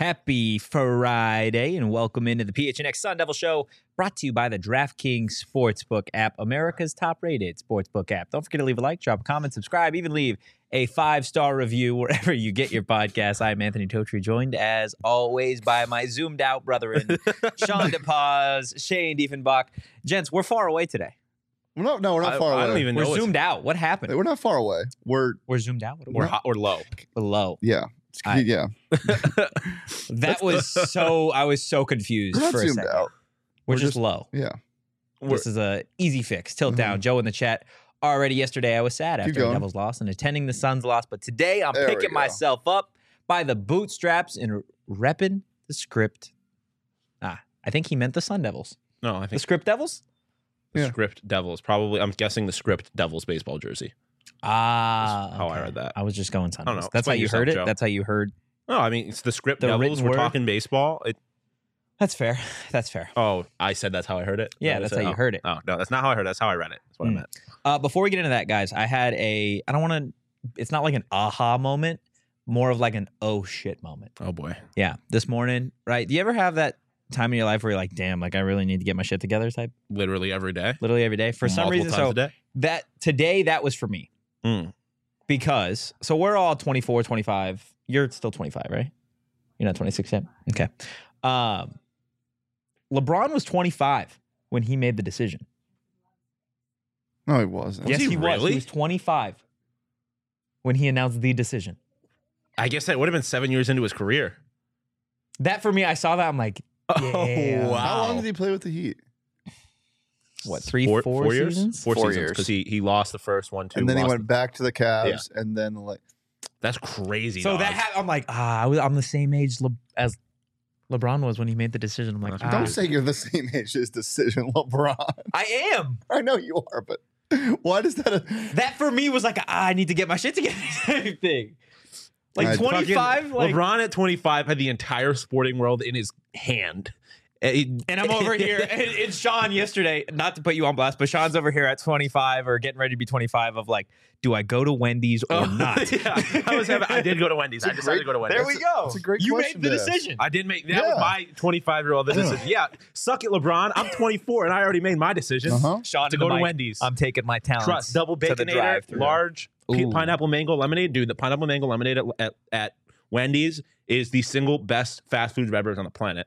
Happy Friday and welcome into the PHNX Sun Devil Show, brought to you by the DraftKings Sportsbook app, America's top-rated sportsbook app. Don't forget to leave a like, drop a comment, subscribe, even leave a 5-star review wherever you get your podcast. I'm Anthony Totri, joined as always by my zoomed-out brethren, Sean DePaz, Shane Diefenbach. Gents, we're far away today. No, we're not far away. I don't even know. We're zoomed out. What happened? We're not far away. We're zoomed out? We're hot or low. We're low. yeah. Yeah. That was so, I was so confused We're not for a zoomed second. out. We're just low. Yeah. This is a easy fix. Tilt down. Joe in the chat. Already yesterday, I was sad after the Devils lost and attending the Suns loss. But today, I'm picking myself up by the bootstraps and repping the script. I think he meant the Sun Devils. No, I think The script Devils? the script Devils. Probably, I'm guessing the script Devils baseball jersey. That's how I read that. I was just going Sun I don't Devils. know. That's how Explain you heard yourself, it? Joe. That's how you heard? No, I mean, it's the script The Devils. written We're word? talking baseball. That's fair. That's fair. Oh, I said that's how I heard it? Yeah, that's how you heard it. Oh, no, that's not how I heard it. That's how I read it. That's what I meant. Before we get into that, guys, I had I don't want to, it's not like an aha moment, more of like an oh shit moment. Oh, boy. Yeah. This morning, right? Do you ever have that time in your life where you're like, damn, like I really need to get my shit together type? Literally every day. Literally every day. For some Multiple reason. times So a day. that today, that was for me. Mm. Because, so we're all 24, 25. You're still 25, right? You're not 26 yet? Okay. LeBron was 25 when he made the decision. No, he wasn't. Yes, he he was. really? He was 25 when he announced the decision. I guess that would have been 7 years into his career. That for me, I saw that. I'm like, yeah. Oh, wow. How long did he play with the Heat? What, three, Four four years? seasons? Four 4 seasons. years. Because he lost the first one, too. And then he lost went back to the Cavs, and then That's crazy. So dog. I'm like, I'm the same age as LeBron was when he made the decision. I'm like, don't say you're the same age as Decision LeBron. I am. I know you are, but why does that? That for me was like, I need to get my shit together type thing. Like I- 25, like, LeBron at 25 had the entire sporting world in his hand. and I'm over here. And Sean yesterday, not to put you on blast, but Sean's over here at 25 or getting ready to be 25 of like, do I go to Wendy's or not? Yeah, I did go to Wendy's. I decided to go to Wendy's. There we go. It's a great You question made the to ask. decision. I did make that was my 25-year-old decision. Yeah, suck it, LeBron. I'm 24 and I already made my decision Sean to in go the to mic, Wendy's. I'm taking my talents. Trust double to the baconator, drive-thru. large Ooh. pineapple mango lemonade, dude. The pineapple mango lemonade at Wendy's is the single best fast food beverage on the planet.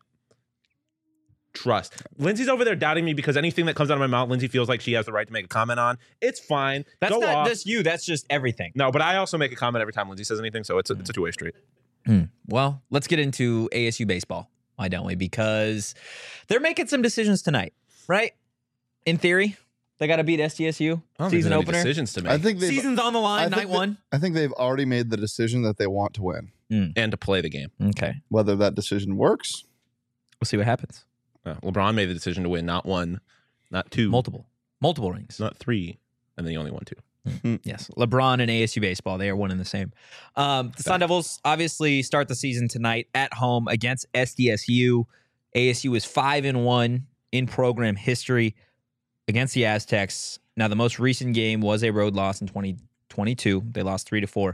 Trust. Lindsay's over there doubting me because anything that comes out of my mouth, Lindsay feels like she has the right to make a comment on. It's fine. That's Go not off. just you. That's just everything. No, but I also make a comment every time Lindsay says anything, so it's a two-way street. Well, let's get into ASU baseball, why don't we? Because they're making some decisions tonight, right? In theory, they got to beat SDSU season opener. Decisions to make I think Season's on the line, night one. I think they've already made the decision that they want to win. and to play the game. Okay, Whether that decision works, we'll see what happens. LeBron made the decision to win not one, not two, Multiple rings. not three, and then he only won two. Yes, LeBron and ASU baseball, they are one and the same. The Sun Devils obviously start the season tonight at home against SDSU. ASU is 5-1 in program history against the Aztecs. Now, the most recent game was a road loss in 2022. They lost 3-4.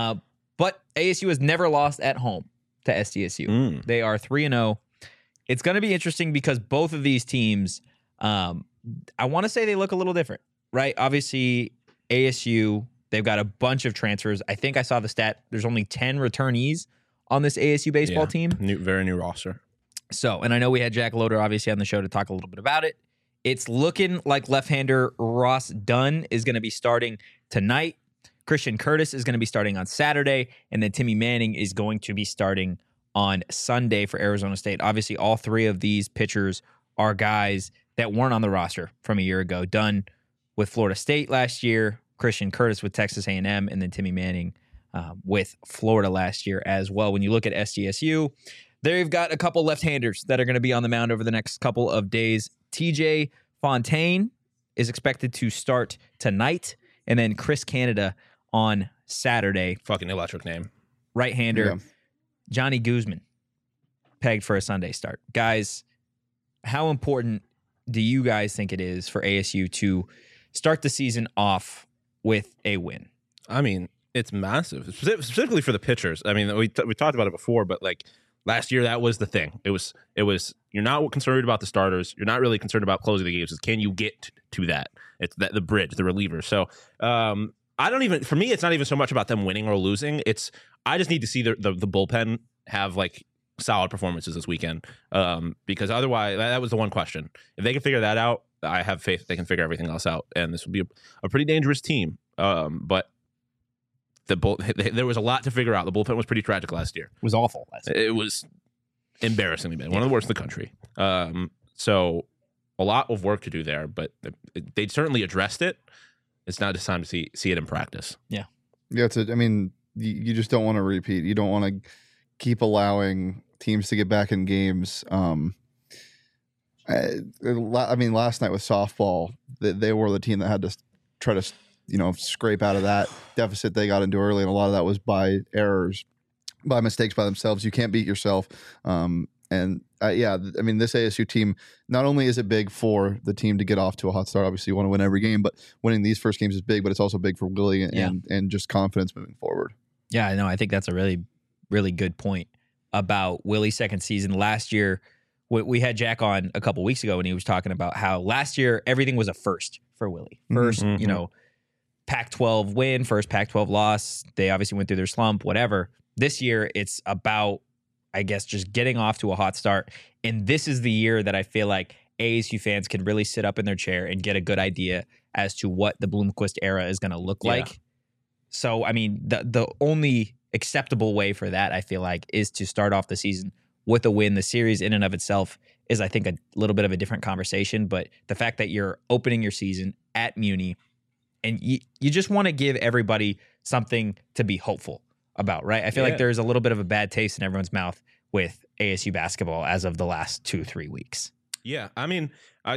But ASU has never lost at home to SDSU. They are 3-0. It's going to be interesting because both of these teams, I want to say they look a little different, right? Obviously, ASU, they've got a bunch of transfers. I think I saw the stat. There's only 10 returnees on this ASU baseball team. Very new roster. So, and I know we had Jack Loader obviously on the show to talk a little bit about it. It's looking like left-hander Ross Dunn is going to be starting tonight. Christian Curtis is going to be starting on Saturday. And then Timmy Manning is going to be starting on Sunday for Arizona State. Obviously, all three of these pitchers are guys that weren't on the roster from a year ago. Dunn with Florida State last year, Christian Curtis with Texas A&M, and then Timmy Manning with Florida last year as well. When you look at SDSU, they've got a couple left-handers that are going to be on the mound over the next couple of days. TJ Fontaine is expected to start tonight, and then Chris Canada on Saturday. Fucking electric name. Right-hander. Yeah. Johnny Guzman, pegged for a Sunday start. Guys, how important do you guys think it is for ASU to start the season off with a win? I mean, it's massive, specifically for the pitchers. I mean, we talked about it before, but like Last year, that was the thing. It was. You're not concerned about the starters. You're not really concerned about closing the games. It's can you get to that? It's the bridge, the reliever. So I don't even. For me, it's not even so much about them winning or losing. I just need to see the bullpen have like solid performances this weekend. Because otherwise, that was the one question. If they can figure that out, I have faith they can figure everything else out, and this will be a pretty dangerous team. But there was a lot to figure out. The bullpen was pretty tragic last year. It was awful last year. It was embarrassingly bad. One of the worst in the country. So a lot of work to do there, but they certainly addressed it. It's now just time to see it in practice. Yeah, I mean, you just don't want to repeat. You don't want to keep allowing teams to get back in games. I mean, last night with softball, they were the team that had to try to scrape out of that deficit they got into early, and a lot of that was by errors, by mistakes by themselves. You can't beat yourself. Yeah, I mean, this ASU team, not only is it big for the team to get off to a hot start, obviously you want to win every game, but winning these first games is big, but it's also big for Willie and just confidence moving forward. Yeah, I know. I think that's a really, really good point about Willie's second season. Last year, we had Jack on a couple weeks ago, and he was talking about how last year everything was a first for Willie. First, Pac-12 win, first Pac-12 loss. They obviously went through their slump, whatever. This year, it's about, I guess, just getting off to a hot start. And this is the year that I feel like ASU fans can really sit up in their chair and get a good idea as to what the Bloomquist era is going to look like. So, I mean, the only acceptable way for that, I feel like, is to start off the season with a win. The series in and of itself is, I think, a little bit of a different conversation. But the fact that you're opening your season at Muni, and you just want to give everybody something to be hopeful about, right? I feel like there's a little bit of a bad taste in everyone's mouth with ASU basketball as of the last 2-3 weeks. Yeah, I mean,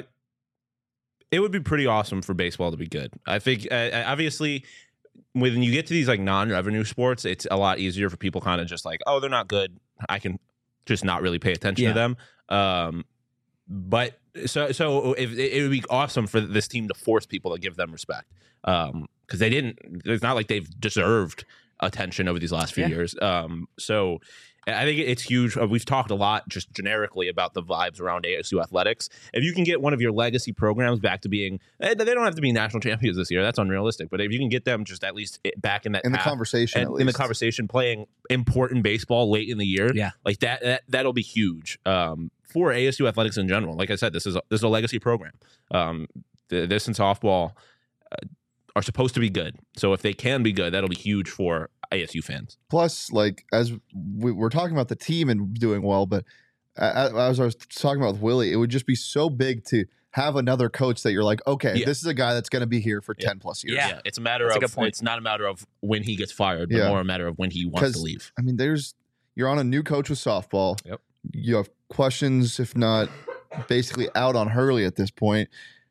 it would be pretty awesome for baseball to be good. I think, obviously, when you get to these like non-revenue sports, it's a lot easier for people kind of just like, oh, they're not good. I can just not really pay attention to them. But so if it would be awesome for this team to force people to give them respect, because they didn't. It's not like they've deserved attention over these last few years. So I think it's huge. We've talked a lot just generically about the vibes around ASU athletics. If you can get one of your legacy programs back to being, they don't have to be national champions this year. That's unrealistic. But if you can get them just at least back in that in the conversation, in the conversation, playing important baseball late in the year, like that'll be huge for ASU athletics in general. Like I said, this is a legacy program. This and softball are supposed to be good. So if they can be good, that'll be huge for ASU fans. Plus, like, as we're talking about the team and doing well, but as I was talking about with Willie, it would just be so big to have another coach that you're like, okay, this is a guy that's going to be here for 10 plus years. Yeah, it's a matter of, it's not a matter of when he gets fired, but more a matter of when he wants to leave. I mean, you're on a new coach with softball. Yep. You have questions, if not basically out on Hurley at this point.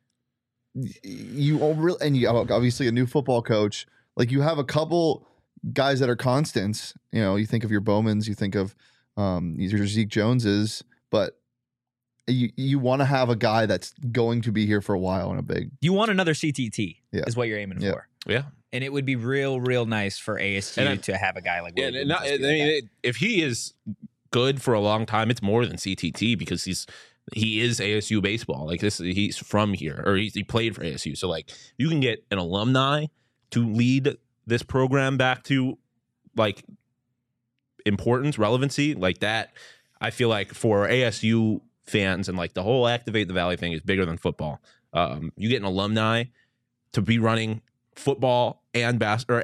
You have obviously a new football coach. Like, you have a couple guys that are constants. You think of your Bowmans, you think of your Zeke Joneses, but you want to have a guy that's going to be here for a while and a big. You want another CTT is what you're aiming for. Yeah. And it would be real nice for ASU to have a guy like Willie. If he is good for a long time, it's more than CTT because he is ASU baseball. Like this, he's from here, or he played for ASU. So like, you can get an alumni to lead this program back to like importance, relevancy, like that. I feel like for ASU fans and like the whole Activate the Valley thing is bigger than football. You get an alumni to be running football and baseball,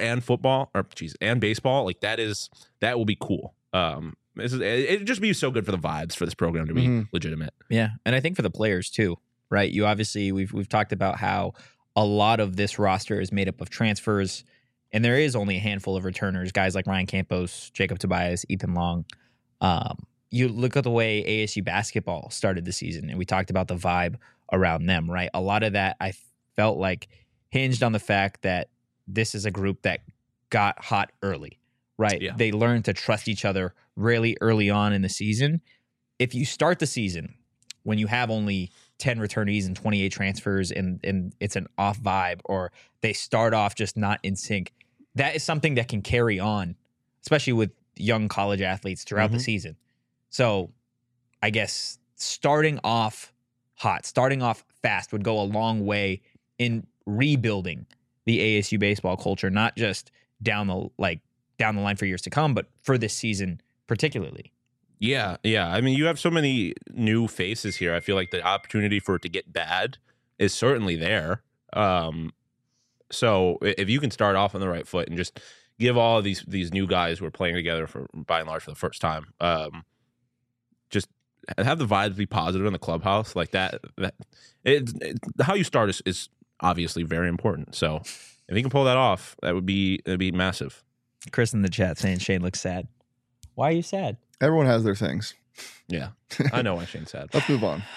like that will be cool. It'd just be so good for the vibes for this program to be legitimate. Yeah, and I think for the players too, right? You obviously we've talked about how a lot of this roster is made up of transfers, and there is only a handful of returners, guys like Ryan Campos, Jacob Tobias, Ethan Long. You look at the way ASU basketball started the season, and we talked about the vibe around them, right? A lot of that I felt like hinged on the fact that this is a group that got hot early, right? Yeah. They learned to trust each other really early on in the season. If you start the season when you have only 10 returnees and 28 transfers and it's an off vibe, or they start off just not in sync, that is something that can carry on, especially with young college athletes throughout the season. So I guess starting off hot, starting off fast would go a long way in rebuilding the ASU baseball culture, not just down the line for years to come, but for this season particularly. Yeah. I mean, you have so many new faces here. I feel like the opportunity for it to get bad is certainly there. So if you can start off on the right foot and just give all of these new guys who are playing together by and large for the first time, just have the vibes be positive in the clubhouse like that. How you start is obviously very important. So if you can pull that off, that'd be massive. Chris in the chat saying Shane looks sad. Why are you sad? Everyone has their things. Yeah, I know why Shane's sad. Let's move on.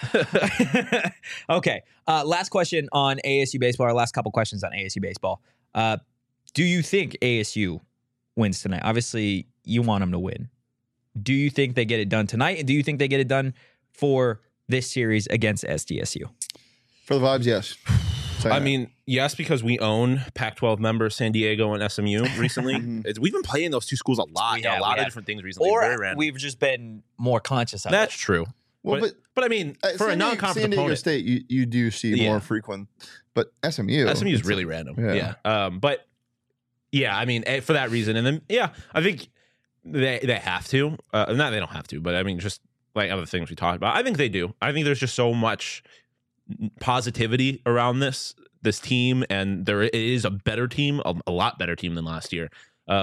Okay. Last question on ASU baseball, or last couple questions on ASU baseball. Do you think ASU wins tonight? Obviously, you want them to win. Do you think they get it done tonight? And do you think they get it done for this series against SDSU? For the vibes, yes. I mean, yes, because we own Pac-12 members San Diego and SMU recently. We've been playing those two schools a lot, a lot of different things recently. Or very random. we've just been more conscious of That's it. true. Well, but I mean, for a non-conference San Diego opponent, State, you do see more frequent, but SMU is really random. Yeah. But yeah, I mean, for that reason, and then I think they have to. Not they don't have to, but I mean, just like other things we talked about, I think they do. I think there's just so much positivity around this team, and it is a better team, a lot better team than last year.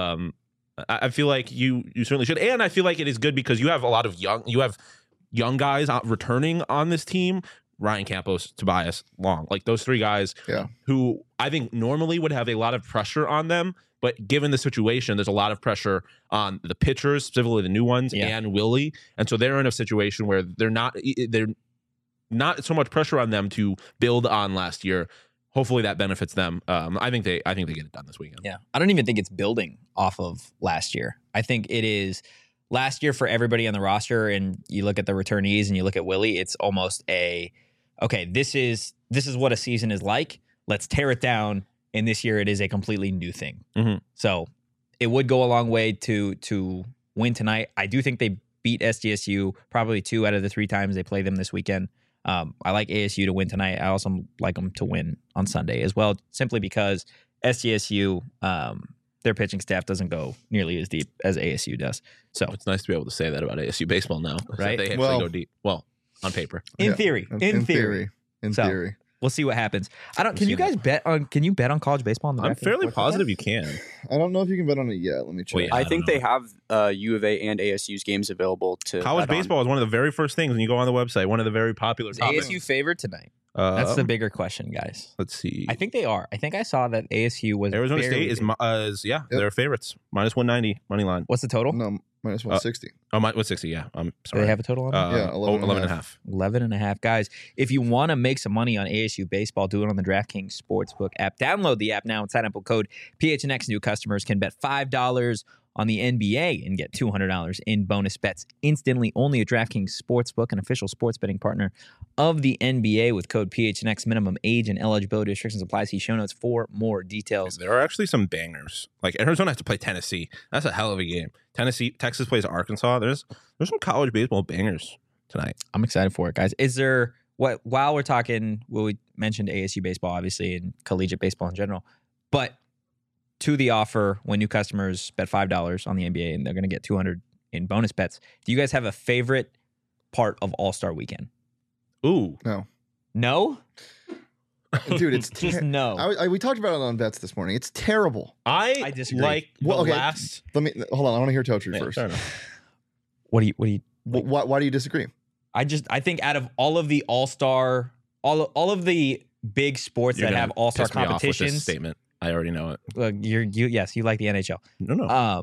I feel like you certainly should, and I feel like it is good because you have a lot of young guys returning on this team. Ryan Campos, Tobias Long, like those three guys who I think normally would have a lot of pressure on them, but given the situation, there's a lot of pressure on the pitchers, specifically the new ones, and Willie, and so they're in a situation where they're not so much pressure on them to build on last year. Hopefully that benefits them. I think they get it done this weekend. Yeah. I don't even think it's building off of last year. I think it is last year for everybody on the roster, and you look at the returnees and you look at Willie, it's almost okay, this is what a season is like. Let's tear it down. And this year it is a completely new thing. Mm-hmm. So it would go a long way to win tonight. I do think they beat SDSU probably 2 out of the 3 times they play them this weekend. I like ASU to win tonight. I also like them to win on Sunday as well, simply because SDSU, their pitching staff doesn't go nearly as deep as ASU does. So it's nice to be able to say that about ASU baseball now, right? They actually go deep. Well, on paper, in theory. We'll see what happens. Can you bet on college baseball on the I'm fairly positive you can. I don't know if you can bet on it yet. Let me check. I think they have U of A and ASU's games available to college baseball is one of the very first things when you go on the website. One of the very popular topics. ASU favored tonight? That's the bigger question, guys. Let's see. I think they are. I think I saw that ASU was Arizona State they're favorites. Minus 190 money line. What's the total? No, minus 160. 160. Yeah, I'm sorry. Do they have a total on that? 11.5. 11.5. Guys, if you want to make some money on ASU baseball, do it on the DraftKings Sportsbook app. Download the app now and sign up with code PHNX. New customers can bet $5 on the NBA and get $200 in bonus bets instantly. Only at DraftKings Sportsbook, an official sports betting partner of the NBA, with code PHNX. Minimum age and eligibility restrictions apply. See show notes for more details. There are actually some bangers. Like Arizona has to play Tennessee. That's a hell of a game. Texas plays Arkansas. There's some college baseball bangers tonight. I'm excited for it, guys. Is there while we're talking? We mentioned ASU baseball, obviously, and collegiate baseball in general, but to the offer, when new customers bet $5 on the NBA and they're going to get $200 in bonus bets, do you guys have a favorite part of All-Star Weekend? Ooh. No? Dude, it's just no. We talked about it on bets this morning. It's terrible. I disagree. Like last. Let me hold on. I want to hear Totri first. Fair enough. What do you? Why do you disagree? I think out of all of the All-Star, all of the big sports that have All-Star competitions, with this statement. I already know it. Yes, you like the NHL. No.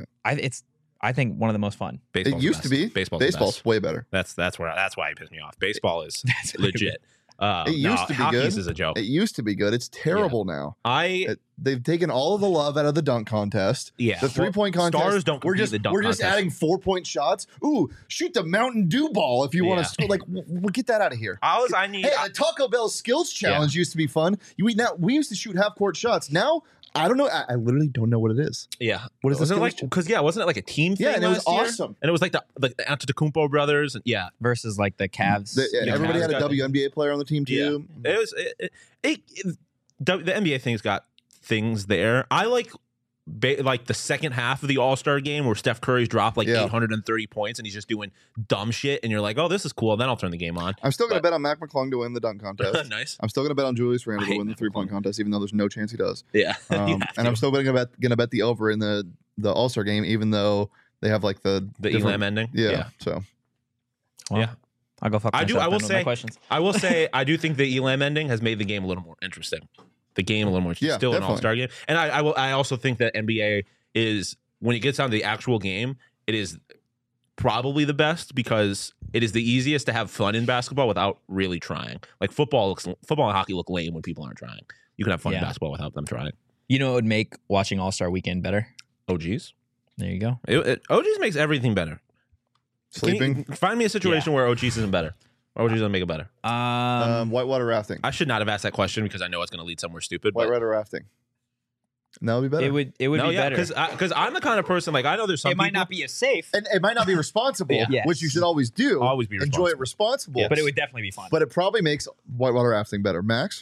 I think one of the most fun. It used to be. Baseball's way better. That's why it pissed me off. Baseball is legit. It used to be good. Is a joke. It used to be good. It's terrible now. They've taken all of the love out of the dunk contest. Yeah, the 3-point contest. Stars don't compete the dunk contest. We're just adding 4-point shots. Ooh, shoot the Mountain Dew ball if you want to score. Like, we'll get that out of here. Hey, the Taco Bell skills challenge used to be fun. We used to shoot half-court shots. Now I don't know. I literally don't know what it is. Yeah. What is this? Wasn't it like? Because wasn't it like a team thing? Yeah, and it was last year? awesome. And it was like the Antetokounmpo brothers. And yeah. versus like the Cavs. Everybody had a Cavs got- WNBA player on the team too. It was the NBA thing's got things there. I like the second half of the All-Star game where Steph Curry's dropped like 830 points and he's just doing dumb shit and you're like, oh, this is cool. And then I'll turn the game on. I'm still going to bet on Mac McClung to win the dunk contest. Nice. I'm still going to bet on Julius Randle I to hate win the Mac 3-point McClung. contest, even though there's no chance he does. Yeah. You And have I'm to. still going to bet the over in the All-Star game, even though they have like the different- Elam ending. Yeah. So Well, Yeah. I'll go fuck I myself. will then with my say- questions. I will say I do think the Elam ending has made the game a little more interesting. The game a little more interesting. Yeah, Still an definitely. All-Star game. And I also think that NBA is, when it gets down to the actual game, it is probably the best because it is the easiest to have fun in basketball without really trying. Like football and hockey look lame when people aren't trying. You can have fun in Yeah. basketball without them trying. You know what would make watching All-Star Weekend better? OGs. There you go. OGs makes everything better. sleeping, Find me a situation where OGs isn't better. OGs doesn't make it better. whitewater rafting, I should not have asked that question because I know it's going to lead somewhere stupid. But whitewater rafting. That would be better. it would no, be yeah, better. because I'm the kind of person, like, I know there's some It might people- not be as safe, And it might not be responsible, Yeah. which you should always do. Always be Enjoy it responsible. Yeah. but it would definitely be fun. But it probably makes whitewater rafting better. Max?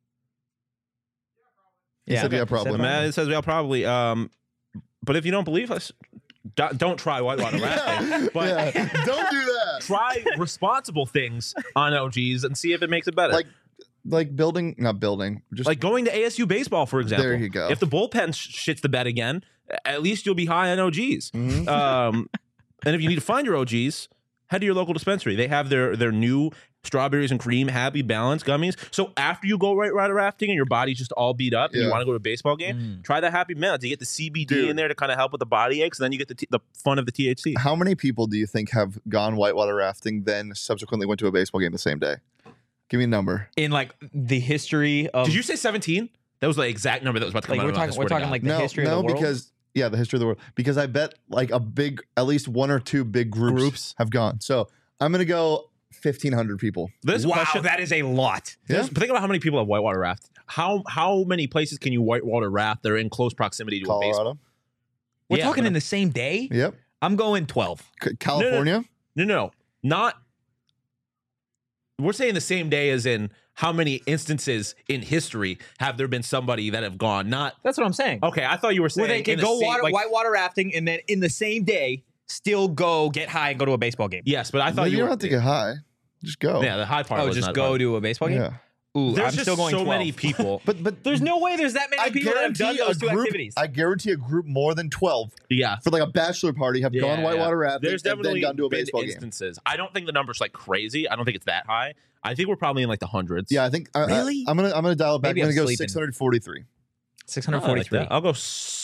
He said, yeah, probably. Man, it says well, probably. But if you don't believe us, don't try whitewater rafting. But Yeah. Don't do that. try responsible things on OGs and see if it makes it better. Like building, not building, just Like going to ASU baseball, for example. There you go. If the bullpen shits the bed again, at least you'll be high on OGs. Mhm. And if you need to find your OGs, head to your local dispensary. They have their new strawberries and cream Happy Balance gummies. So after you go whitewater rafting and your body's just all beat up and you Yeah. want to go to a baseball game, try the Happy Balance. You get the CBD Dude. in there to kind of help with the body aches, and then you get the fun of the THC. How many people do you think have gone whitewater rafting, then subsequently went to a baseball game the same day? Give me a number. in like the history of, Did you say 17? That was the exact number that was about to come like out of my mouth, I we're swear to talking God. like the history of the world? because the history of the world. Because I bet like at least one or two big groups have gone. So I'm gonna go 1,500 people. This wow, question, that is a lot. Yeah. think about how many people have whitewater raft. How many places can you whitewater raft that are in close proximity to a baseball? Colorado. We're Yeah, talking but- in the same day. Yep. I'm going 12. California. No, not. We're saying the same day as in how many instances in history have there been somebody that have gone? Not That's what I'm saying. okay. I thought you were saying Where they can in the go same- like- whitewater rafting and then in the same day still go get high and go to a baseball game. Yes, but I thought You you don't were, have to get high. Just go. Yeah, the high part. Oh, was just not go hard. to a baseball game? Yeah. Ooh, There's I'm just still going so 12. many people. But There's no way there's that many I people that have done guarantee those two group. activities. I guarantee a group more than 12 Yeah. for like a bachelor party have gone Yeah, whitewater rafting There's and definitely then gone to a been baseball game. instances. I don't think the number's like crazy. I don't think it's that high. I think we're probably in like the hundreds. Yeah, I think Really? I'm gonna dial it back. Maybe I'm I'm gonna go sleeping. 643. I like 643. that. I'll go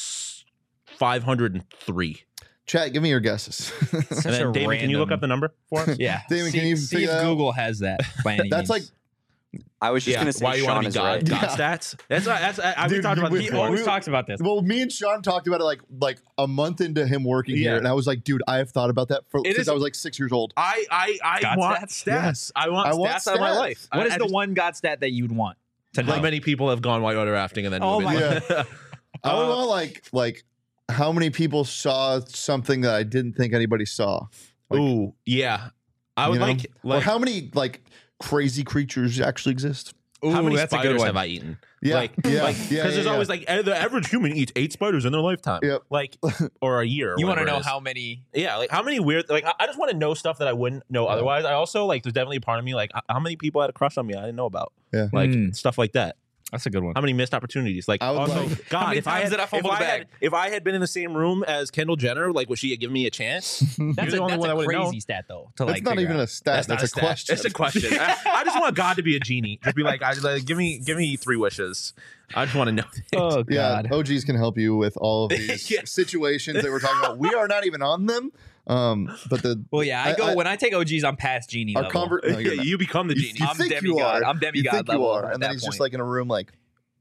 503. Chat, give me your guesses. Such And then a Damon, can you look random- up the number for us? Yeah. Damon, see, can you see figure if that out? Google has that by any That's means. I was just Yeah. gonna say Why you Sean want to is be God? right. God Yeah. stats. That's we Dude, talked about we- this He before. always talks about this. well, me and Sean talked about it like a month into him working Yeah. here, and I was like, dude, I have thought about that It since is- I was like 6 years old. I God want stats? stats. I want I want stats out of my stats. life. What is I the just- one God stat that you'd want to know? How many people have gone whitewater rafting and then Oh moved my in? I would want like how many people saw something that I didn't think anybody saw. Like, Ooh, yeah. I would you know? like or how many like crazy creatures actually exist. Ooh, how many that's a good spiders one. have I eaten? Yeah, Like, yeah, because yeah, there's yeah, always like the average human eats 8 spiders in their lifetime. Yep. Like, or a year. Or You want to whatever it know is. how many? Yeah, like how many weird. Like, I just want to know stuff that I wouldn't know otherwise. I also like. There's definitely a part of me like how many people had a crush on me I didn't know about. Yeah. Like Hmm. stuff like that. That's a good one. How many missed opportunities? Like, I would also, like- God, How many if I times had, did I fumble if the I had, bag? if I had been in the same room as Kendall Jenner, like, would she have given me a chance? That's You're the only one that a wouldn't crazy know. stat though. To That's like not figure even out. a stat. That's, not a stat. question. It's a question. I just want God to be a genie. Just be like, give me 3 wishes. I just want to know. Oh Yeah, God. OGs can help you with all of these Yeah. situations that we're talking about. We are not even on them. But the Well, yeah. I go when I take OGs, I'm past genie our level. convert. No, you're Yeah, not. you become the genie. You I'm think you demigod. are. I'm You demigod think you level are, at and then that he's just point. like in a room like.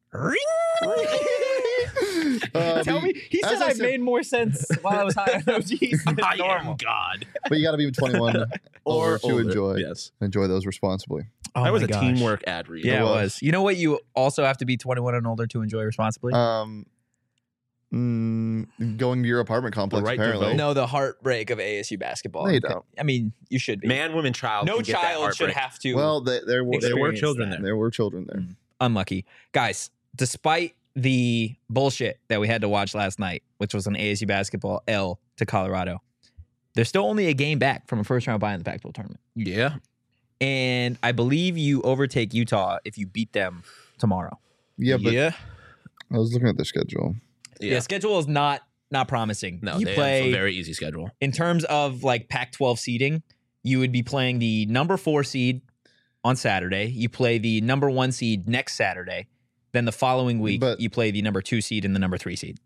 Tell me, he as said I I said- made more sense while I was high on OGs than I normal. am God. But you got to be 21 or to older. enjoy Yes. those responsibly. Oh that was my a gosh. teamwork ad read. Yeah, it was. was. You know what? You also have to be 21 and older to enjoy responsibly. Going to your apartment complex, right to apparently. vote. No, the heartbreak of ASU basketball. No, you don't. I mean, you should be. Man, woman, child. no can get that child should heartbreak. have to. Well, there were experience children that. there. There were children there. Unlucky. Guys, despite the bullshit that we had to watch last night, which was an ASU basketball L to Colorado, they're still only a game back from a first round bye in the Pac-12 tournament. Yeah. And I believe you overtake Utah if you beat them tomorrow. Yeah, but yeah. I was looking at their schedule. Yeah, schedule is not promising. No, you they play have a very easy schedule. in terms of like Pac-12 seeding, you would be playing the number 4 seed on Saturday. You play the number 1 seed next Saturday. Then the following week, But- you play the number 2 seed and the number 3 seed.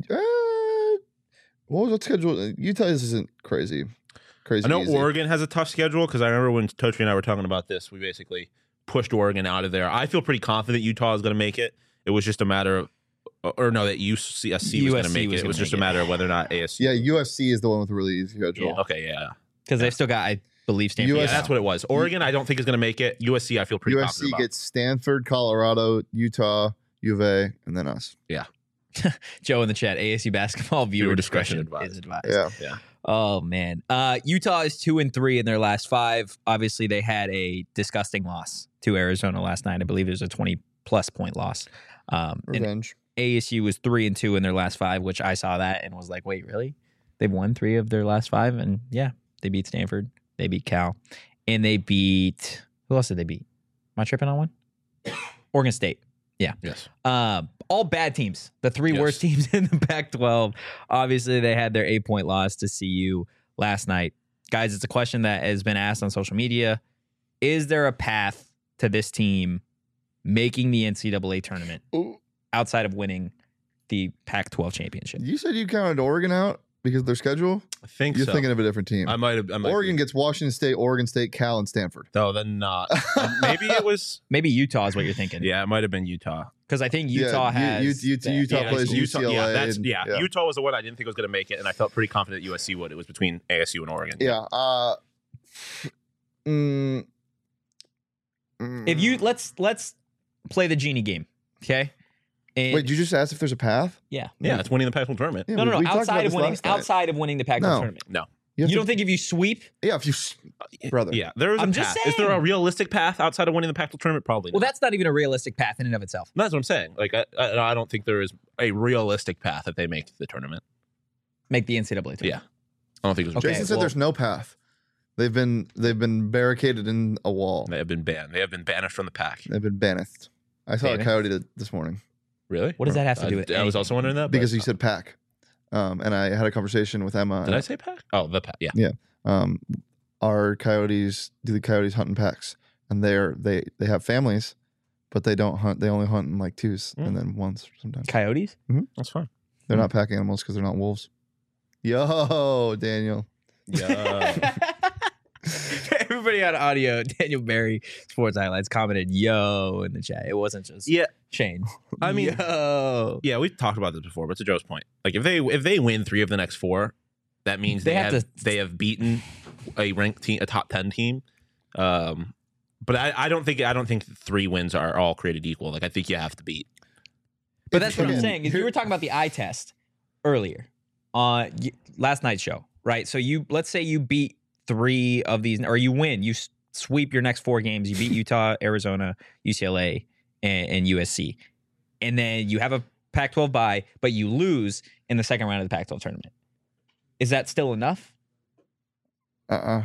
What was that schedule? Utah's isn't crazy. I know easy. Oregon has a tough schedule because I remember when Tochi and I were talking about this, we basically pushed Oregon out of there. I feel pretty confident Utah is going to make it. It was just a matter of, or no, that USC was going to USC make was it. It was gonna just a make it. matter of whether or not ASU. Yeah, USC is the one with a really easy schedule. Okay, yeah. Because they've still got, I believe, Stanford. Yeah, US that's what it was. Oregon, I don't think is going to make it. USC, I feel pretty confident USC about. gets Stanford, Colorado, Utah, U of A, and then us. Joe in the chat, ASU basketball viewer discretion discretion is advised. Yeah. Oh man, Utah is 2-3 in their last 5. Obviously, they had a disgusting loss to Arizona last night. I believe it was a 20-plus point loss. And Revenge. ASU was 3-2 in their last 5, which I saw that and was like, wait, really? They've won 3 of their last 5, and yeah, they beat Stanford, they beat Cal, and they beat who else did they beat? Am I tripping on one? Oregon State. Yeah. Yes. All bad teams. The 3 Yes. worst teams in the Pac-12. Obviously, they had their 8-point loss to CU last night. Guys, it's a question that has been asked on social media. Is there a path to this team making the NCAA tournament Ooh, outside of winning the Pac-12 championship? you said you counted Oregon out because of their schedule? I think You're so. thinking of a different team. I might have. Oregon gets Washington State, Oregon State, Cal, and Stanford. No, then not. Maybe it was. Maybe Utah is what you're thinking. Yeah, it might have been Utah. Because I think Utah has... Utah that- plays UCLA. Yeah, and- Utah was the one I didn't think was going to make it, and I felt pretty confident USC would. It was between ASU and Oregon. Yeah. If you... Let's play the genie game, okay? And Wait, did you just ask if there's a path? yeah. Yeah, it's winning the Pac-12 tournament. Yeah, No. we talked Outside about of this winning, last night. outside of winning the Pac-12 No. tournament. No. You You don't think if you sweep... Yeah, if you, brother. Yeah, there is a I'm path. just Is there a saying. realistic path outside of winning the Pac-12 tournament? Probably Well, not. that's not even a realistic path in and of itself. That's what I'm saying. Like, I don't think there is a realistic path that they make the tournament. Make the NCAA tournament. Yeah. I don't think there's. Okay, Jason said well- there's no path. They've been barricaded in a wall. They have been banned. They have been banished from the pack. They've been banished. I saw Banished? a coyote this morning Really? What does that have to do with I was anything? also wondering that. because but- he said pack. And I had a conversation with Emma. Did I say pack? Oh, the pack. Yeah. Our coyotes do the coyotes hunt in packs, and they have families, but they don't hunt. They only hunt in like 2s and then 1s sometimes. Coyotes? That's fine. They're not pack animals because they're not wolves. Yo, Daniel. Yeah. Everybody on audio, Daniel Barry, Sports Highlights, commented, yo, in the chat. It wasn't just yeah. Shane. I mean- yo. Yeah, we've talked about this before, but to Joe's point, like if they win 3 of the next 4, that means They they have have beaten a ranked team, a top 10 team. But I don't think 3 wins are all created equal. Like I think you have to beat. But that's what I'm Again, saying. If you were talking about the eye test earlier on last night's show, right? So let's say you beat 3 of these, or you win, you sweep your next 4 games. You beat Utah, Arizona, UCLA, and USC, and then you have a Pac-12 bye, but you lose in the second round of the Pac-12 tournament. Is that still enough? I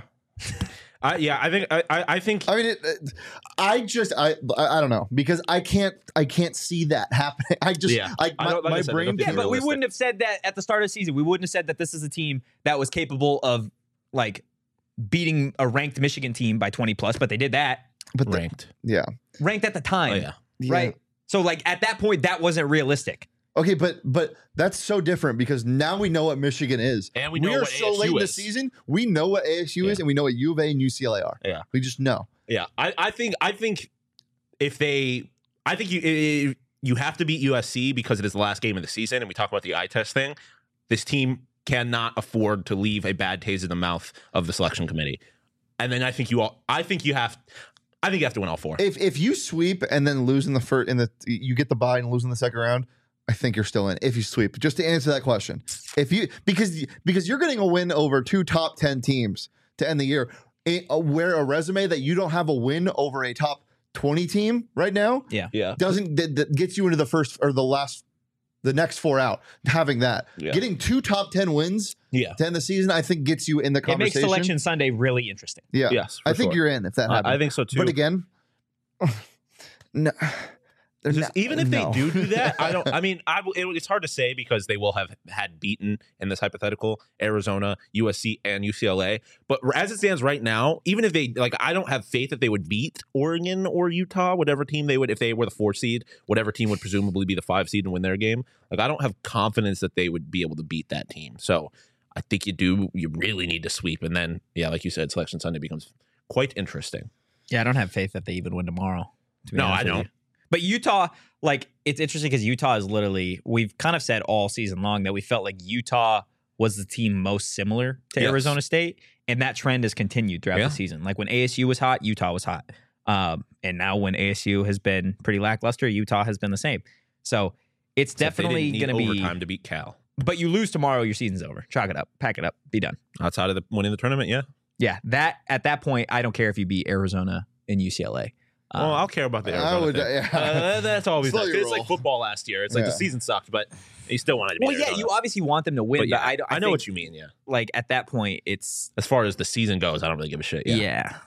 I think mean, I don't know because I can't see that happening. I just, Yeah. I, I don't- like I my said, I brain. don't think Yeah, but we realistic. wouldn't have said that at the start of the season. We wouldn't have said that this is a team that was capable of like beating a ranked Michigan team by 20 plus, but they did that. But ranked. yeah, Ranked at the Oh time. yeah. Right? So like at that point, that wasn't realistic. Okay, but that's so different because now we know what Michigan is. And we know are what so ASU late in the is. season. We know what ASU is, and we know what U of A and UCLA are. Yeah. We just know. Yeah, I think if they, I think you have to beat USC because it is the last game of the season, and we talk about the eye test thing. This team cannot afford to leave a bad taste in the mouth of the selection committee, and then I think you have to win all 4. If you sweep and then lose in the first, you get the bye and lose in the second round, I think you're still in if you sweep. Just to answer that question, if you because you're getting a win over 2 top 10 teams to end the year, where a resume that you don't have a win over a top 20 team right now, Yeah. doesn't that gets you into the first or the next 4 out. Having that, getting 2 top 10 wins, to end the season, I think gets you in the It conversation. makes Selection Sunday really interesting. Yeah, Yes, I think you're in if that happens. I think so too. But again, no. Even if No. they do that, I don't. I mean, it's hard to say because they will have had beaten in this hypothetical Arizona, USC, and UCLA. But as it stands right now, even if they I don't have faith that they would beat Oregon or Utah, whatever team they would, if they were the 4 seed, whatever team would presumably be the 5 seed and win their game. I don't have confidence that they would be able to beat that team. So I think you really need to sweep, and then like you said, Selection Sunday becomes quite interesting. Yeah, I don't have faith that they even win tomorrow. To be No, honest I with don't. you. But Utah, it's interesting because Utah is literally, we've kind of said all season long that we felt like Utah was the team most similar to Yes. Arizona State. And that trend has continued throughout the season. Like when ASU was hot, Utah was hot. And now when ASU has been pretty lackluster, Utah has been the same. So it's definitely going to be overtime to beat Cal. But you lose tomorrow, your season's over. Chalk it up, pack it up, be done. Outside of winning the tournament, Yeah, at that point, I don't care if you beat Arizona and UCLA. Well, I'll care about the Arizona I would, thing. That's always Slow nice. your It's like roll. football last year. It's like the season sucked, but you still wanted to beat Well, yeah, Arizona. you obviously want them to win, But but yeah, I know think, what you mean. Yeah, like at that point, it's as far as the season goes, I don't really give a shit. Yeah.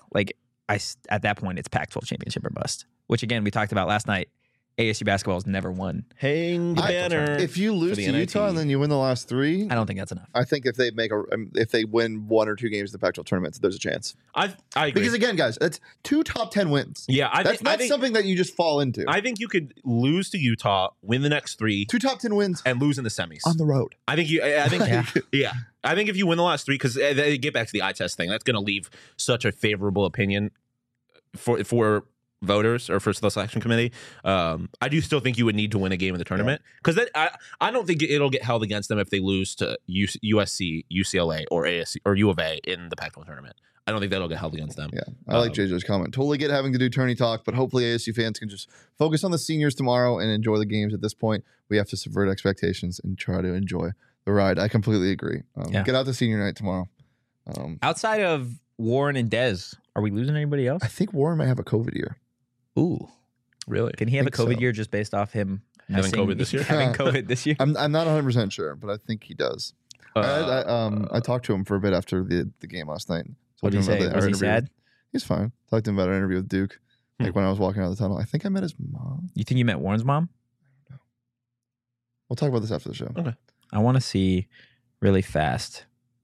at that point, it's Pac-12 championship or bust. Which again, we talked about last night. ASU basketball has never won. Hang the banner. If you lose the to NIT. Utah and then you win the last 3, I don't think that's enough. I think if they win 1 or 2 games in the Pac-12 tournament, there's a chance. I agree. Because again, guys, that's 2 top 10 wins. Yeah, That's not something that you just fall into. I think you could lose to Utah, win the next 3, 2 top 10 wins and lose in the semis. on the road. I think you. I think Yeah. I think if you win the last 3, because they get back to the eye test thing, that's going to leave such a favorable opinion for voters or for the selection committee. I do still think you would need to win a game in the tournament because I don't think it'll get held against them if they lose to USC, UCLA, or ASC or U of A in the Pac-12 tournament. I don't think that'll get held against them. Yeah, I like JJ's comment. Totally get having to do tourney talk, but hopefully ASU fans can just focus on the seniors tomorrow and enjoy the games. At this point, we have to subvert expectations and try to enjoy the ride. I completely agree. Get out to senior night tomorrow. Outside of Warren and Dez, are we losing anybody else? I think Warren might have a COVID year. Ooh, Really? can he have a think COVID so. year just based off him Having missing- COVID this year? Having COVID this year. I'm not 100% sure, but I think he does. I talked to him for a bit after the game last night. What did he say? Was he sad? He's fine. Talked to him about our interview with Duke. Like when I was walking out of the tunnel. I think I met his mom. You think you met Warren's mom? We'll talk about this after the show. Okay. I want to see really fast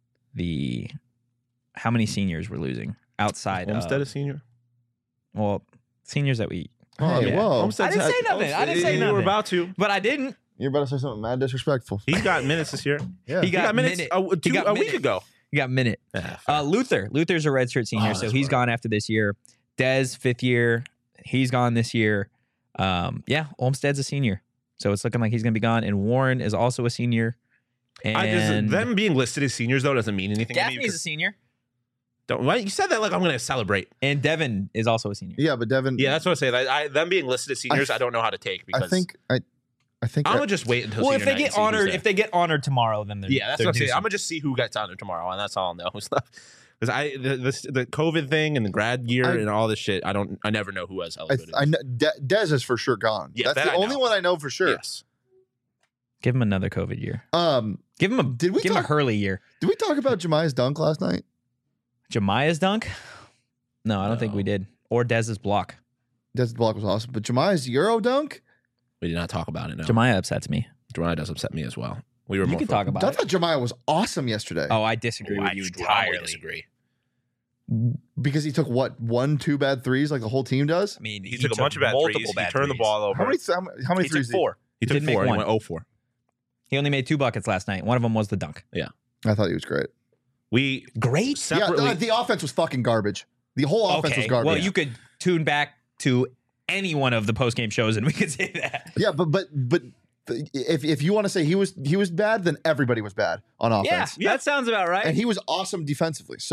how many seniors we're losing outside Olmstead a of senior? Seniors that we. Hey, yeah. whoa. Olmstead's I didn't say had- nothing. I didn't say You nothing. were about to. But I didn't. You're about to say something mad disrespectful. He got minutes this year. Yeah. He He got minutes minute. a He got week minute. ago. You got minute. Yeah, Luther's a redshirt senior, Oh, so that's he's right. gone after this year. Dez, 5th year, he's gone this year. Olmstead's a senior, so it's looking like he's going to be gone. And Warren is also a senior. And them being listed as seniors though doesn't mean anything. to me Gaffney's a because- senior, Why you said that like I'm going to celebrate? and Devin is also a senior. Yeah, but Devin. Yeah, that's what I say. Them being listed as seniors, I don't know how to take because I think I'm gonna just wait until. Well, senior if they night and get see who's honored, there. if they get honored tomorrow, then they're that's they're what I'm saying. due I'm gonna just see who gets honored tomorrow, and that's all I'll know. Because the COVID thing and the grad year and all this shit, I never know who has eligibility. I know Dez is for sure gone. Yeah, That's that the I only know. one I know for sure. Yes. Give him another COVID year. Give him a Did we give him a talk- Hurley year. Did we talk about Jemiah's dunk last night? Jemiah's dunk? No, I don't think we did. Or Dez's block. Dez's block was awesome, but Jemiah's Euro dunk? We did not talk about it. No, Jemiah upsets me. Jemiah does upset me as well. We were You more can talk I about it. thought Jemiah was awesome yesterday Oh, I disagree with you entirely. disagree. because he took what 1-2 bad threes like the whole team does. I mean, He took a bunch of bad multiple threes. bad He turned the threes. ball over. How many He threes? took 4. He took didn't make 4. He one. went 0-4. He only made 2 buckets last night. One of them was the dunk. I thought he was great. We Great. separately. Yeah, the offense was fucking garbage. The whole offense was garbage. Well, you could tune back to any one of the post-game shows and we could say that. Yeah, but if you want to say he was bad, then everybody was bad on offense. Yeah, that sounds about right. And he was awesome defensively. So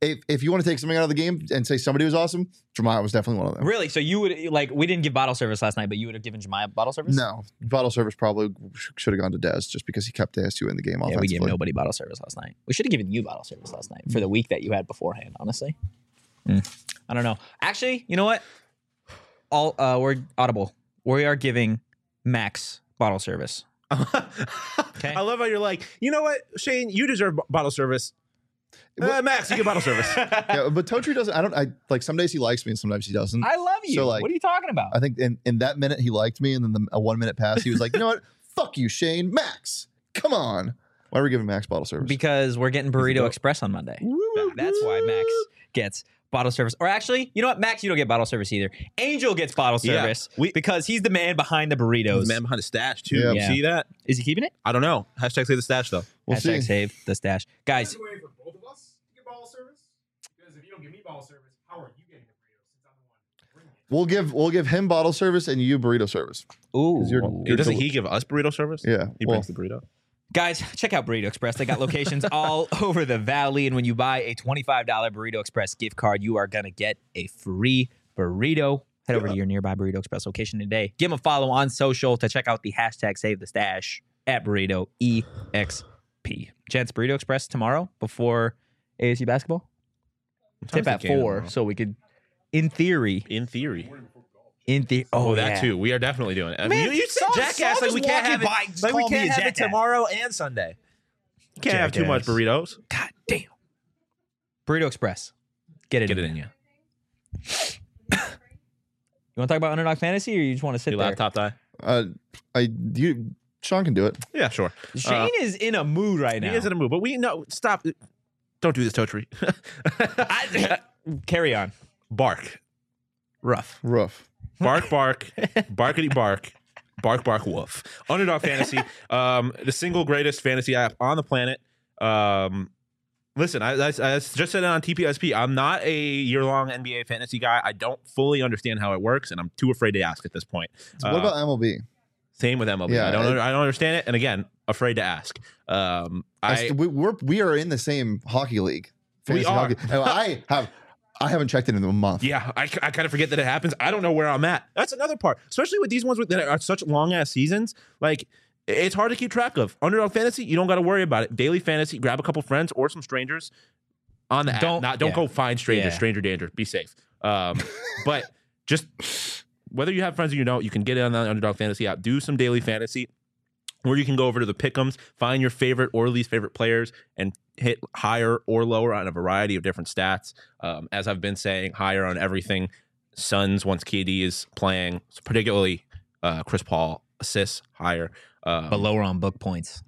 if you want to take something out of the game and say somebody was awesome, Jemiah was definitely one of them. Really? So you would we didn't give bottle service last night, but you would have given Jemiah bottle service? No, bottle service probably should have gone to Dez just because he kept ASU in the game Yeah, offensively. we gave nobody bottle service last night. We should have given you bottle service last night for the week that you had beforehand, honestly. I don't know. Actually, you know what? We're audible. We are giving Max bottle service. I love how you're like, you know what, Shane, you deserve bottle service. Max, you get bottle service. Yeah, but Totri doesn't. I like some days he likes me and sometimes he doesn't. I love you. So, like, what are you talking about? I think in that minute he liked me, and then a 1 minute pass, he was like, you know what? Fuck you, Shane. Max, come on. Why are we giving Max bottle service? Because we're getting Burrito Express on Monday. That's why Max gets bottle service. Or actually, you know what? Max, you don't get bottle service either. Angel gets bottle service because he's the man behind the burritos. The man behind the stash, too. Yeah. You see that? Is he keeping it? I don't know. Hashtag say the stash, though. We'll see. Hashtag save the stash. Guys, There's a way for both of us to get bottle service. Because if you don't give me bottle service, how are you getting the burritos since I'm the one bringing it? We'll give him bottle service and you burrito service. ooh. Doesn't he give us burrito service? Yeah, He brings the burrito. Guys, check out Burrito Express. They got locations all over the valley. And when you buy a $25 Burrito Express gift card, you are going to get a free burrito. Head over to your nearby Burrito Express location today. Give them a follow on social to check out the hashtag Save the Stash at Burrito EXP. Gents, Burrito Express tomorrow before ASU basketball. Tip at 4, so we could, in theory. Oh, that too. We are definitely doing it. Man, you said jackass like we can't have it. Like we can't have it tomorrow and Sunday. You can't have too much burritos. God damn. Burrito Express. Get it in you. You want to talk about Underdog Fantasy, or you just want to sit Your there? laptop die? Sean can do it. Yeah, sure. Shane is in a mood right now. He is in a mood, but we know. Stop. Don't do this, Totri. Carry on. Bark. Rough. Bark, barkity bark, bark, woof. Underdog Fantasy, the single greatest fantasy app on the planet. Listen, I just said it on TPSP. I'm not a year-long NBA fantasy guy. I don't fully understand how it works, and I'm too afraid to ask at this point. So what about MLB? Same with MLB. Yeah, I don't understand it, and again, afraid to ask. We are in the same hockey league. We are. Hockey. I haven't checked it in a month. Yeah, I kind of forget that it happens. I don't know where I'm at. That's another part, especially with these ones that are such long ass seasons. Like, it's hard to keep track of. Underdog Fantasy, you don't got to worry about it. Daily Fantasy, grab a couple friends or some strangers on the app. Don't go find strangers. Yeah. Stranger danger. Be safe. But just whether you have friends or you don't, you can get it on the Underdog Fantasy app. Do some daily fantasy. Or you can go over to the Pick'ems, find your favorite or least favorite players, and hit higher or lower on a variety of different stats. As I've been saying, higher on everything. Suns, once KD is playing, particularly Chris Paul, assists higher. But lower on book points.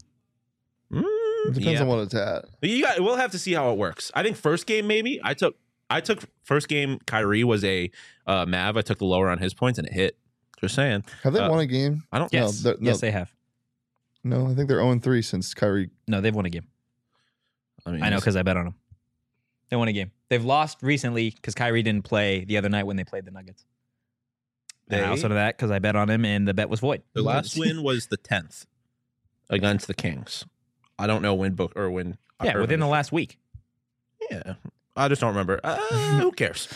It depends on what it's at. We'll have to see how it works. I think first game, maybe. I took first game, Kyrie was a Mav. I took the lower on his points, and it hit. Just saying. Have they won a game? I don't Yes. No, Yes, they have. No, I think they're 0-3 since Kyrie. No, they've won a game. mean, I know because I bet on them. They won a game. They've lost recently because Kyrie didn't play the other night when they played the Nuggets. And I also know that because I bet on him and the bet was void. The last win was the 10th against the Kings. I don't know when book or when. Yeah, within the last week. Yeah, I just don't remember. Who cares?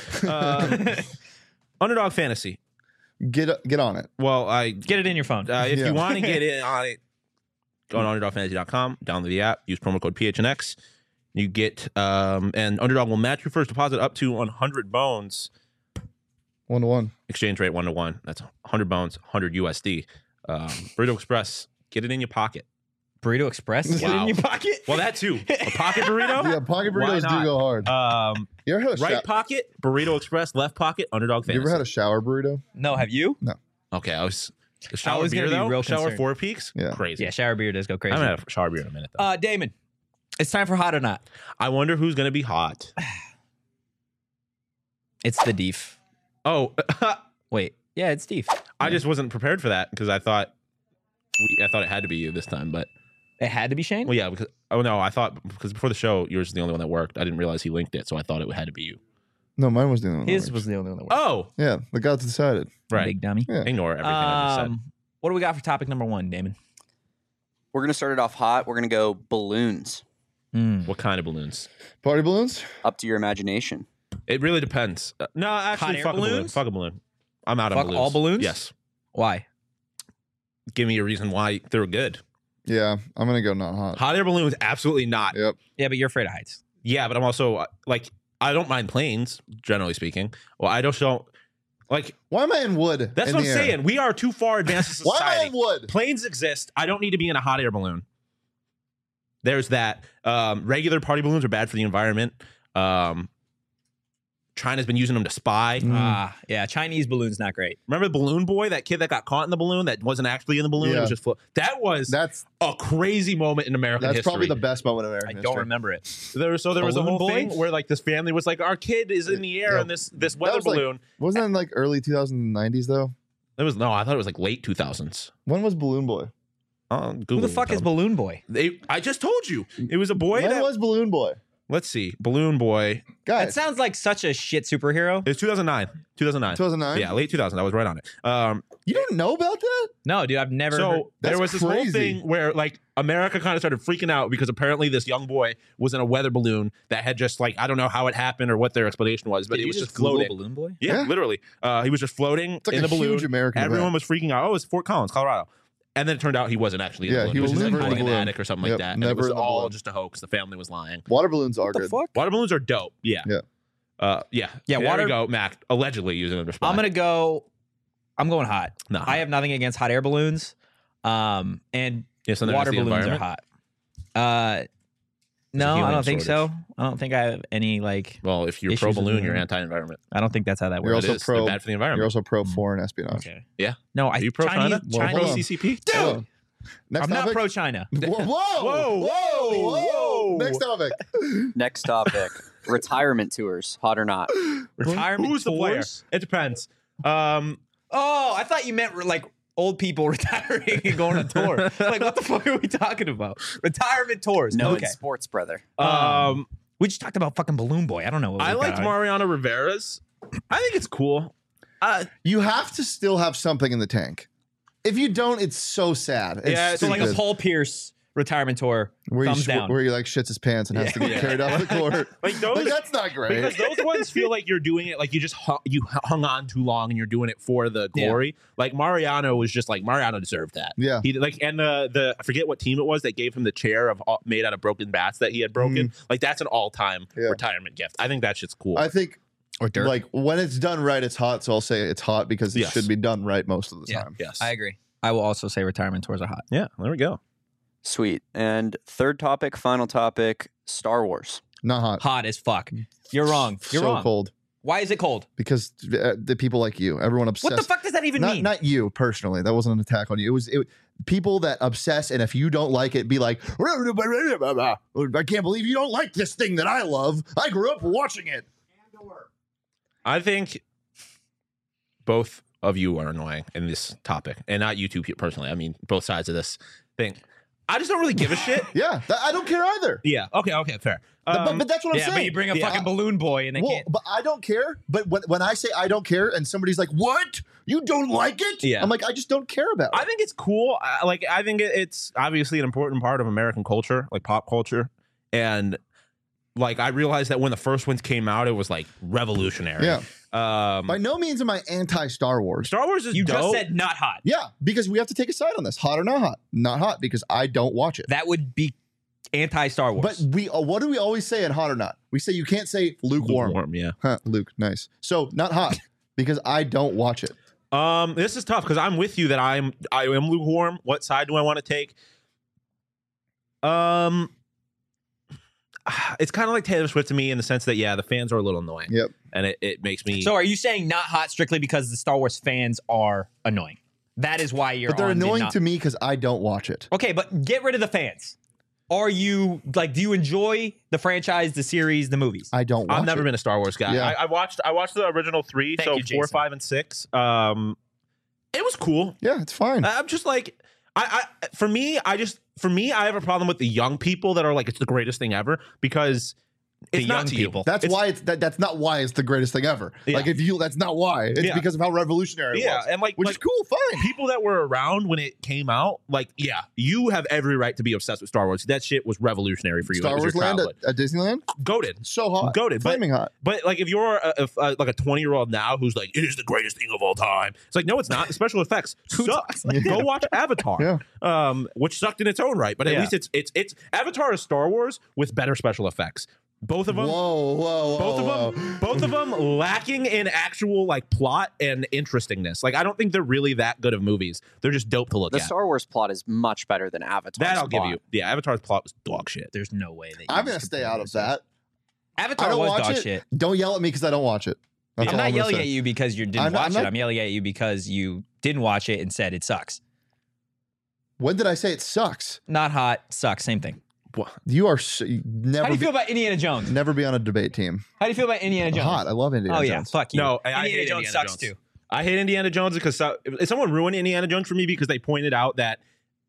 Underdog Fantasy. Get on it. Well, Get it in your phone. if Yeah. you want to get in on it, go on underdogfantasy.com, download the app, use promo code PHNX. You get and Underdog will match your first deposit up to 100 bones. 1-1. Exchange rate 1-to-1. That's 100 bones, 100 USD. Burrito Express, get it in your pocket. Burrito Express? Get it Wow. in your pocket? Well, that too. A pocket burrito. Yeah, pocket Why burritos not? do go hard. You ever had a Right pocket, Burrito Express. Left pocket, Underdog You Fantasy. ever had a shower burrito? No, have you? Okay, I was. The shower was gonna beer be though. real Shower concerned. Four Peaks. Yeah. Crazy. Yeah, shower beer does go I crazy. haven't had a shower beer in a minute though. Damon, it's time for Hot or Not. I wonder who's gonna be hot. It's the Deef. Oh, Wait. Yeah, it's Deef. I just wasn't prepared for that because I thought it had to be you this time. But It had to be Shane? well, yeah, because I thought because before the show yours is the only one that worked. I didn't realize he linked it, so I thought it had to be you. No, mine was the only one. His that was worked. the only one that worked. Oh, Yeah, the gods decided. right. Big dummy. Yeah. Ignore everything I just said. What do we got for topic number 1, Damon? We're going to start it off hot. We're going to go balloons. What kind of balloons? Party balloons? Up to your imagination. It really depends. No, Hot actually, air fuck a balloon. balloons? Fuck a balloon. I'm out on Fuck balloons. all balloons? Yes. Why? Give me a reason why they're good. Yeah, I'm gonna go not hot. Hot air balloons, absolutely not. Yep. Yeah, but you're afraid of heights. Yeah, but I'm also like, I don't mind planes, generally speaking. Well, I just don't like. Why am I in wood? That's in what I'm the air? saying. We are too far advanced as a Why am I society. in wood? Planes exist. I don't need to be in a hot air balloon. There's that. Regular party balloons are bad for the environment. China's been using them to spy. Yeah, Chinese balloons not great. Remember the balloon boy, that kid that got caught in the balloon that wasn't actually in the balloon? It Yeah. was just that was That's a crazy moment in American history. probably the best moment of American I history. don't remember it. There was a Balloon whole boy? thing where like this family was like, our kid is in the air Yeah. in this weather was, like, balloon. Wasn't that in like early 2090s though? It was I thought it was like late 2000s. When was Balloon Boy? Who the fuck is Balloon Boy? I just told you it was a boy. When was Balloon Boy? Let's see, Balloon Boy. That Guys, sounds like such a shit superhero. It was 2009. 2009. Yeah, late 2000. I was right on it. You don't know about that? No, dude, I've never. heard. So there That's was this whole crazy. thing where like America kind of started freaking out because apparently this young boy was in a weather balloon that had just like, I don't know how it happened or what their explanation was, but Did it you was just Google floating. Balloon Boy? Yeah, Yeah. literally. He was just floating It's like in a the balloon. huge American Everyone event. was freaking out. Oh, it's Fort Collins, Colorado. And then it turned out he wasn't actually in Yeah, the balloon. he It was just, like, never in the hiding in balloon. attic or something Yep, like that. And it never was in the all balloon. just a hoax. The family was lying. Water balloons are What the good. fuck? Water balloons are dope. Yeah. Yeah. Yeah. Yeah, There water- we go, Mac. Allegedly using them to spy. I'm going hot. No. I have nothing against hot air balloons. And Yeah, something water against the balloons are environment? hot. No, I helium don't think shortage. so. I don't think I have any like. Well, if you're Issues pro with balloon, the you're environment. anti-environment. I don't think that's how that You're works. It also is. They're pro- bad for the You're environment. also pro foreign espionage. Okay. Yeah. No, Are you pro Chinese. China? Well, hold on. CCP? Hold on. Next I'm not topic? pro China. Whoa, whoa, Whoa, whoa. Next topic. Next topic. Retirement tours. Hot or not? Retirement Who's the player? tours? It depends. Oh, I thought you meant like old people retiring and going on tour. Like, what the fuck are we talking about? Retirement tours. No, okay. it's sports, brother. We just talked about fucking Balloon Boy. I don't know. What I we liked got. Mariano Rivera's. I think it's cool. You have to still have something in the tank. If you don't, it's so sad. It's Yeah, So like a stupid. Paul Pierce retirement tour. where thumbs down. where he like shits his pants and has to get Yeah. carried off the court. Like those, Like, that's not great. because those ones feel like you're doing it like you just hung on too long and you're doing it for the Yeah. glory. Like Mariano was just like Mariano deserved that. Yeah. He like and the I forget what team it was that gave him the chair of made out of broken bats that he had broken. Like that's an all time Yeah. retirement gift. I think that shit's cool. I think Or dirt. like when it's done right, it's hot. So I'll say it's hot because it Yes. should be done right most of the Yeah. time. yes. I agree. I will also say retirement tours are hot. yeah. There we go. Sweet. And third topic, final topic, Star Wars. Not hot. Hot as fuck. You're wrong. You're so wrong. cold Why is it cold? because the people like you, everyone obsessed. What the fuck does that even not mean? not you personally. That wasn't an attack on you. It was people that obsess, and if you don't like it, be like, I can't believe you don't like this thing that I love. I grew up watching it. I think both of you are annoying in this topic, and not you two personally. I mean, both sides of this thing. I just don't really give a shit. Yeah, I don't care either. Yeah. Okay. Fair. But that's what I'm yeah, saying. but you bring a yeah. fucking balloon boy and they Well, can't. but I don't care. But when I say I don't care, and somebody's like, "What? You don't like it?" Yeah. I'm like, I just don't care about I it. think it's cool. I think it's obviously an important part of American culture, like pop culture, and like I realized that when the first ones came out, it was like revolutionary. Yeah. Um, By no means am I anti-Star Wars. Star Wars is You dope. just said not hot. Yeah, because we have to take a side on this. Hot or not hot? Not hot because I don't watch it. That would be anti-Star Wars. But we, what do we always say in hot or not? We say you can't say lukewarm. Yeah. Huh, Luke, nice. So not hot because I don't watch it. This is tough because I'm with you that I am lukewarm. What side do I want to take? It's kind of like Taylor Swift to me in the sense that the fans are a little annoying. Yep. And it makes me. So are you saying not hot strictly because the Star Wars fans are annoying? That is why you're But they're on the annoying not- to me because I don't watch it. Okay, but get rid of the fans. Are you like? Do you enjoy the franchise, the series, the movies? I don't watch I've never it. been a Star Wars guy. Yeah. I watched the original 3, Thank so you, 4, Jason. 5, and 6. It was cool. Yeah, it's fine. I'm just like, for me, I have a problem with the young people that are like, it's the greatest thing ever because the It's not young to you. people. That's It's- why that's not why it's the greatest thing ever. Yeah. Like that's not why. It's Yeah. because of how revolutionary it Yeah, was. and like Which is cool, fine. people that were around when it came out, like, yeah, you have every right to be obsessed with Star Wars. That shit was revolutionary for you. Star It was Wars your Land childhood. at Disneyland, Goated. so hot, Goated, but- flaming hot. But like, if you're like a 20-year-old now who's like, it is the greatest thing of all time, it's like, no, it's not. The special effects suck. Go watch Avatar, which sucked in its own right, but at Yeah. least it's Avatar is Star Wars with better special effects. Both of them. Whoa. Both of them lacking in actual like plot and interestingness. Like, I don't think they're really that good of movies. They're just dope to look The at. Star Wars plot is much better than Avatar. That I'll give you. Yeah, Avatar's plot was dog shit. There's no way that I'm gonna stay out of that. I Avatar don't was watch dog it. shit. Don't yell at me because I don't watch it. That's I'm all not gonna yelling say. at you because you didn't I'm watch not- it. I'm yelling at you because you didn't watch it and said it sucks. When did I say it sucks? Not hot, sucks, same thing. You are How never do you feel about Indiana Jones? never be on a debate team. How do you feel about Indiana Jones? Hot. I love Indiana Oh yeah, Jones. fuck you. No, I Indiana hate Jones Indiana sucks Jones. too. I hate Indiana Jones because someone ruined Indiana Jones for me because they pointed out that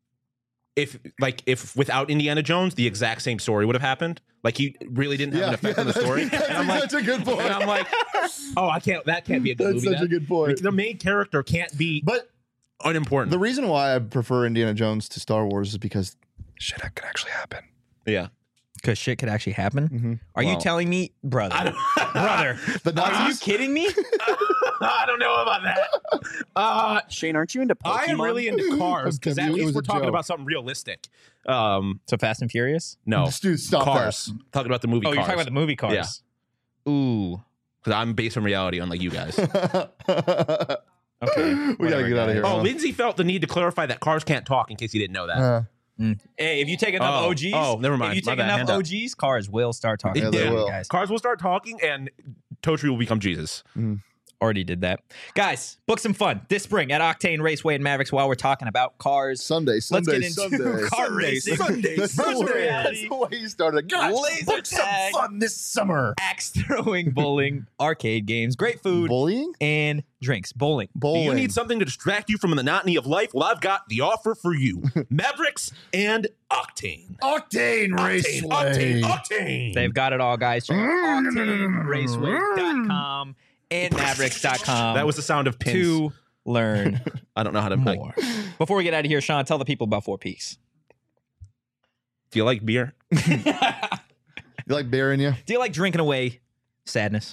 if without Indiana Jones, the exact same story would have happened. Like, he really didn't have an effect on the story. That's And I'm like, such a good point. and I'm like, oh, that can't be a good That's movie. such a good point. The main character can't be But unimportant. the reason why I prefer Indiana Jones to Star Wars is because shit could actually happen. yeah. Because shit could actually happen. Mm-hmm. Are you Well, telling me, brother? Brother, the are you Nazis? kidding me? I don't know about that. Shane, aren't you into Pokemon? I am really into cars because It at was least a we're talking joke. about something realistic. So Fast and Furious? No, Dude, stop Cars. Talking about the movie Oh, Cars. you're talking about the movie Cars. Yeah. Ooh. Because I'm based on reality, unlike you guys. that. Okay. We gotta get out of here. Oh, huh? Lindsay felt the need to clarify that cars can't talk in case you didn't know that. Hey, if you take enough Oh. OGs, Oh, never mind. If you My take bad. enough Hand up. OGs, cars will start talking. Yeah, they will. Guys. Cars will start talking and Totri will become Jesus. Already did that. Guys, book some fun this spring at Octane Raceway and Mavericks while we're talking about cars. Sunday. Let's get into Sunday. car racing. That's the Virtual way- reality. That's the way you started. Guys, Laser book some tag. fun this summer. Axe throwing, bowling, arcade games, great food, Bullying? and drinks. Bowling. Do Bowling. you need something to distract you from the monotony of life? Well, I've got the offer for you. Mavericks and Octane. Octane Raceway. Octane. They've got it all, guys. Check out OctaneRaceway.com and Mavericks.com That was the sound of pins. to learn I don't know how to more. Before we get out of here, Sean, tell the people about Four Peaks. Do you like beer? You like bearing you? Do you like drinking away sadness?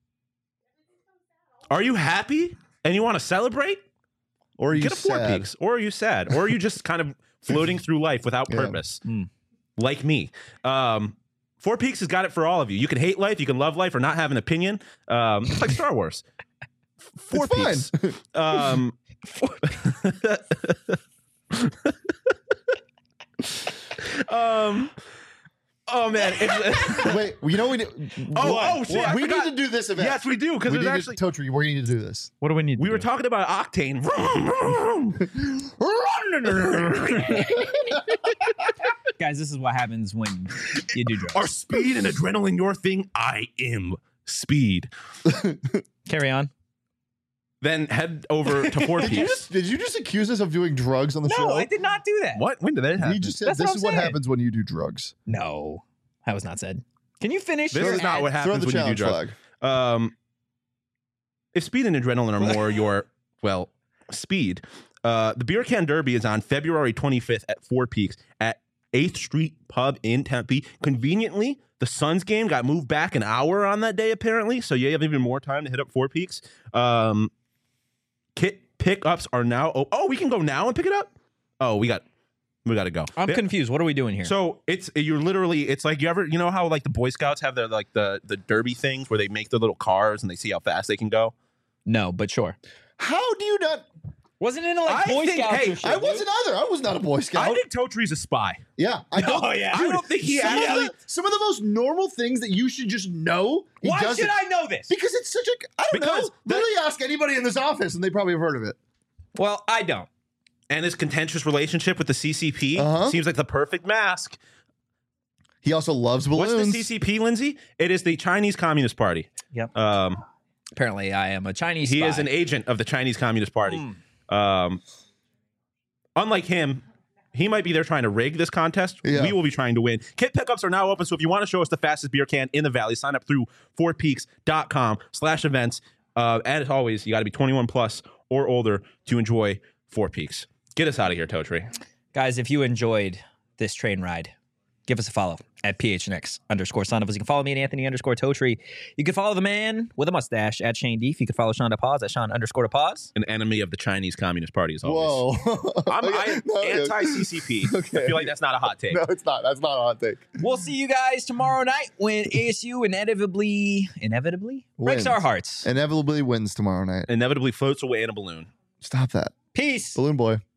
Are you happy and you want to celebrate? Or are you Get a Four sad? Peaks. Or are you sad? Or are you just kind of floating through life without Yeah. purpose? Mm. Like me. Four Peaks has got it for all of you. You can hate life, you can love life, or not have an opinion. It's like Star Wars. Four It's Peaks. Oh man. Wait, you know we need. Oh, shit, I We forgot. need to do this event. Yes, we do, because we there's need actually. to, Totri, we need to do this. What do we need? We were talking about Octane. Guys, this is what happens when you do drugs. Are speed and adrenaline your thing? I am speed. Carry on. Then head over to Four Peaks. Did you just accuse us of doing drugs on the show? No, I did not do that. What? When did that happen? He just said That's this what is I'm what saying. happens when you do drugs. No, that was not said. Can you finish? This your is not ad? what Throw happens the when you do challenge drugs. flag. If speed and adrenaline are more your, well, speed, the Beer Can Derby is on February 25th at Four Peaks at 8th Street Pub in Tempe. Conveniently, the Suns game got moved back an hour on that day, apparently, so you have even more time to hit up Four Peaks. Kit pickups are now. Oh, we can go now and pick it up? Oh, we got to go. I'm confused. What are we doing here? So you're literally, it's like you know how like the Boy Scouts have their like the derby things where they make their little cars and they see how fast they can go. no, but sure. How do you not? Wasn't it like I Boy think- Scouts hey, or shit? I wasn't either. I was not a Boy Scout. I think Totri's a spy. yeah, I don't. Oh, yeah. I don't think he some actually. some of the most normal things that you should just know. He Why doesn't. should I know this? Because it's such a. I don't Because know. Literally ask anybody in this office, and they probably have heard of it. Well, I don't. And his contentious relationship with the CCP Uh-huh. seems like the perfect mask. He also loves balloons. What's the CCP, Lindsay? It is the Chinese Communist Party. Yep. Apparently, I am a Chinese. He spy. is an agent of the Chinese Communist Party. Mm. Unlike him, He might be there trying to rig this contest. Yeah. We will be trying to win. Kit pickups are now open, so if you want to show us the fastest beer can in the Valley, sign up through fourpeaks.com/events. And as always, you got to be 21 plus or older to enjoy Four Peaks. Get us out of here, Totri. Guys, if you enjoyed this train ride, give us a follow at PHNX_son of us. You can follow me at Anthony_Totri. You can follow the man with a mustache at Shane Deef. You can follow Sean DePaz at Sean_DePaz. An enemy of the Chinese Communist Party, as always. Whoa. I'm No, anti-CCP. Okay. I feel like that's not a hot take. No, it's not. That's not a hot take. We'll see you guys tomorrow night when ASU inevitably breaks Wins. our hearts. Inevitably wins tomorrow night. Inevitably floats away in a balloon. Stop that. Peace. Balloon boy.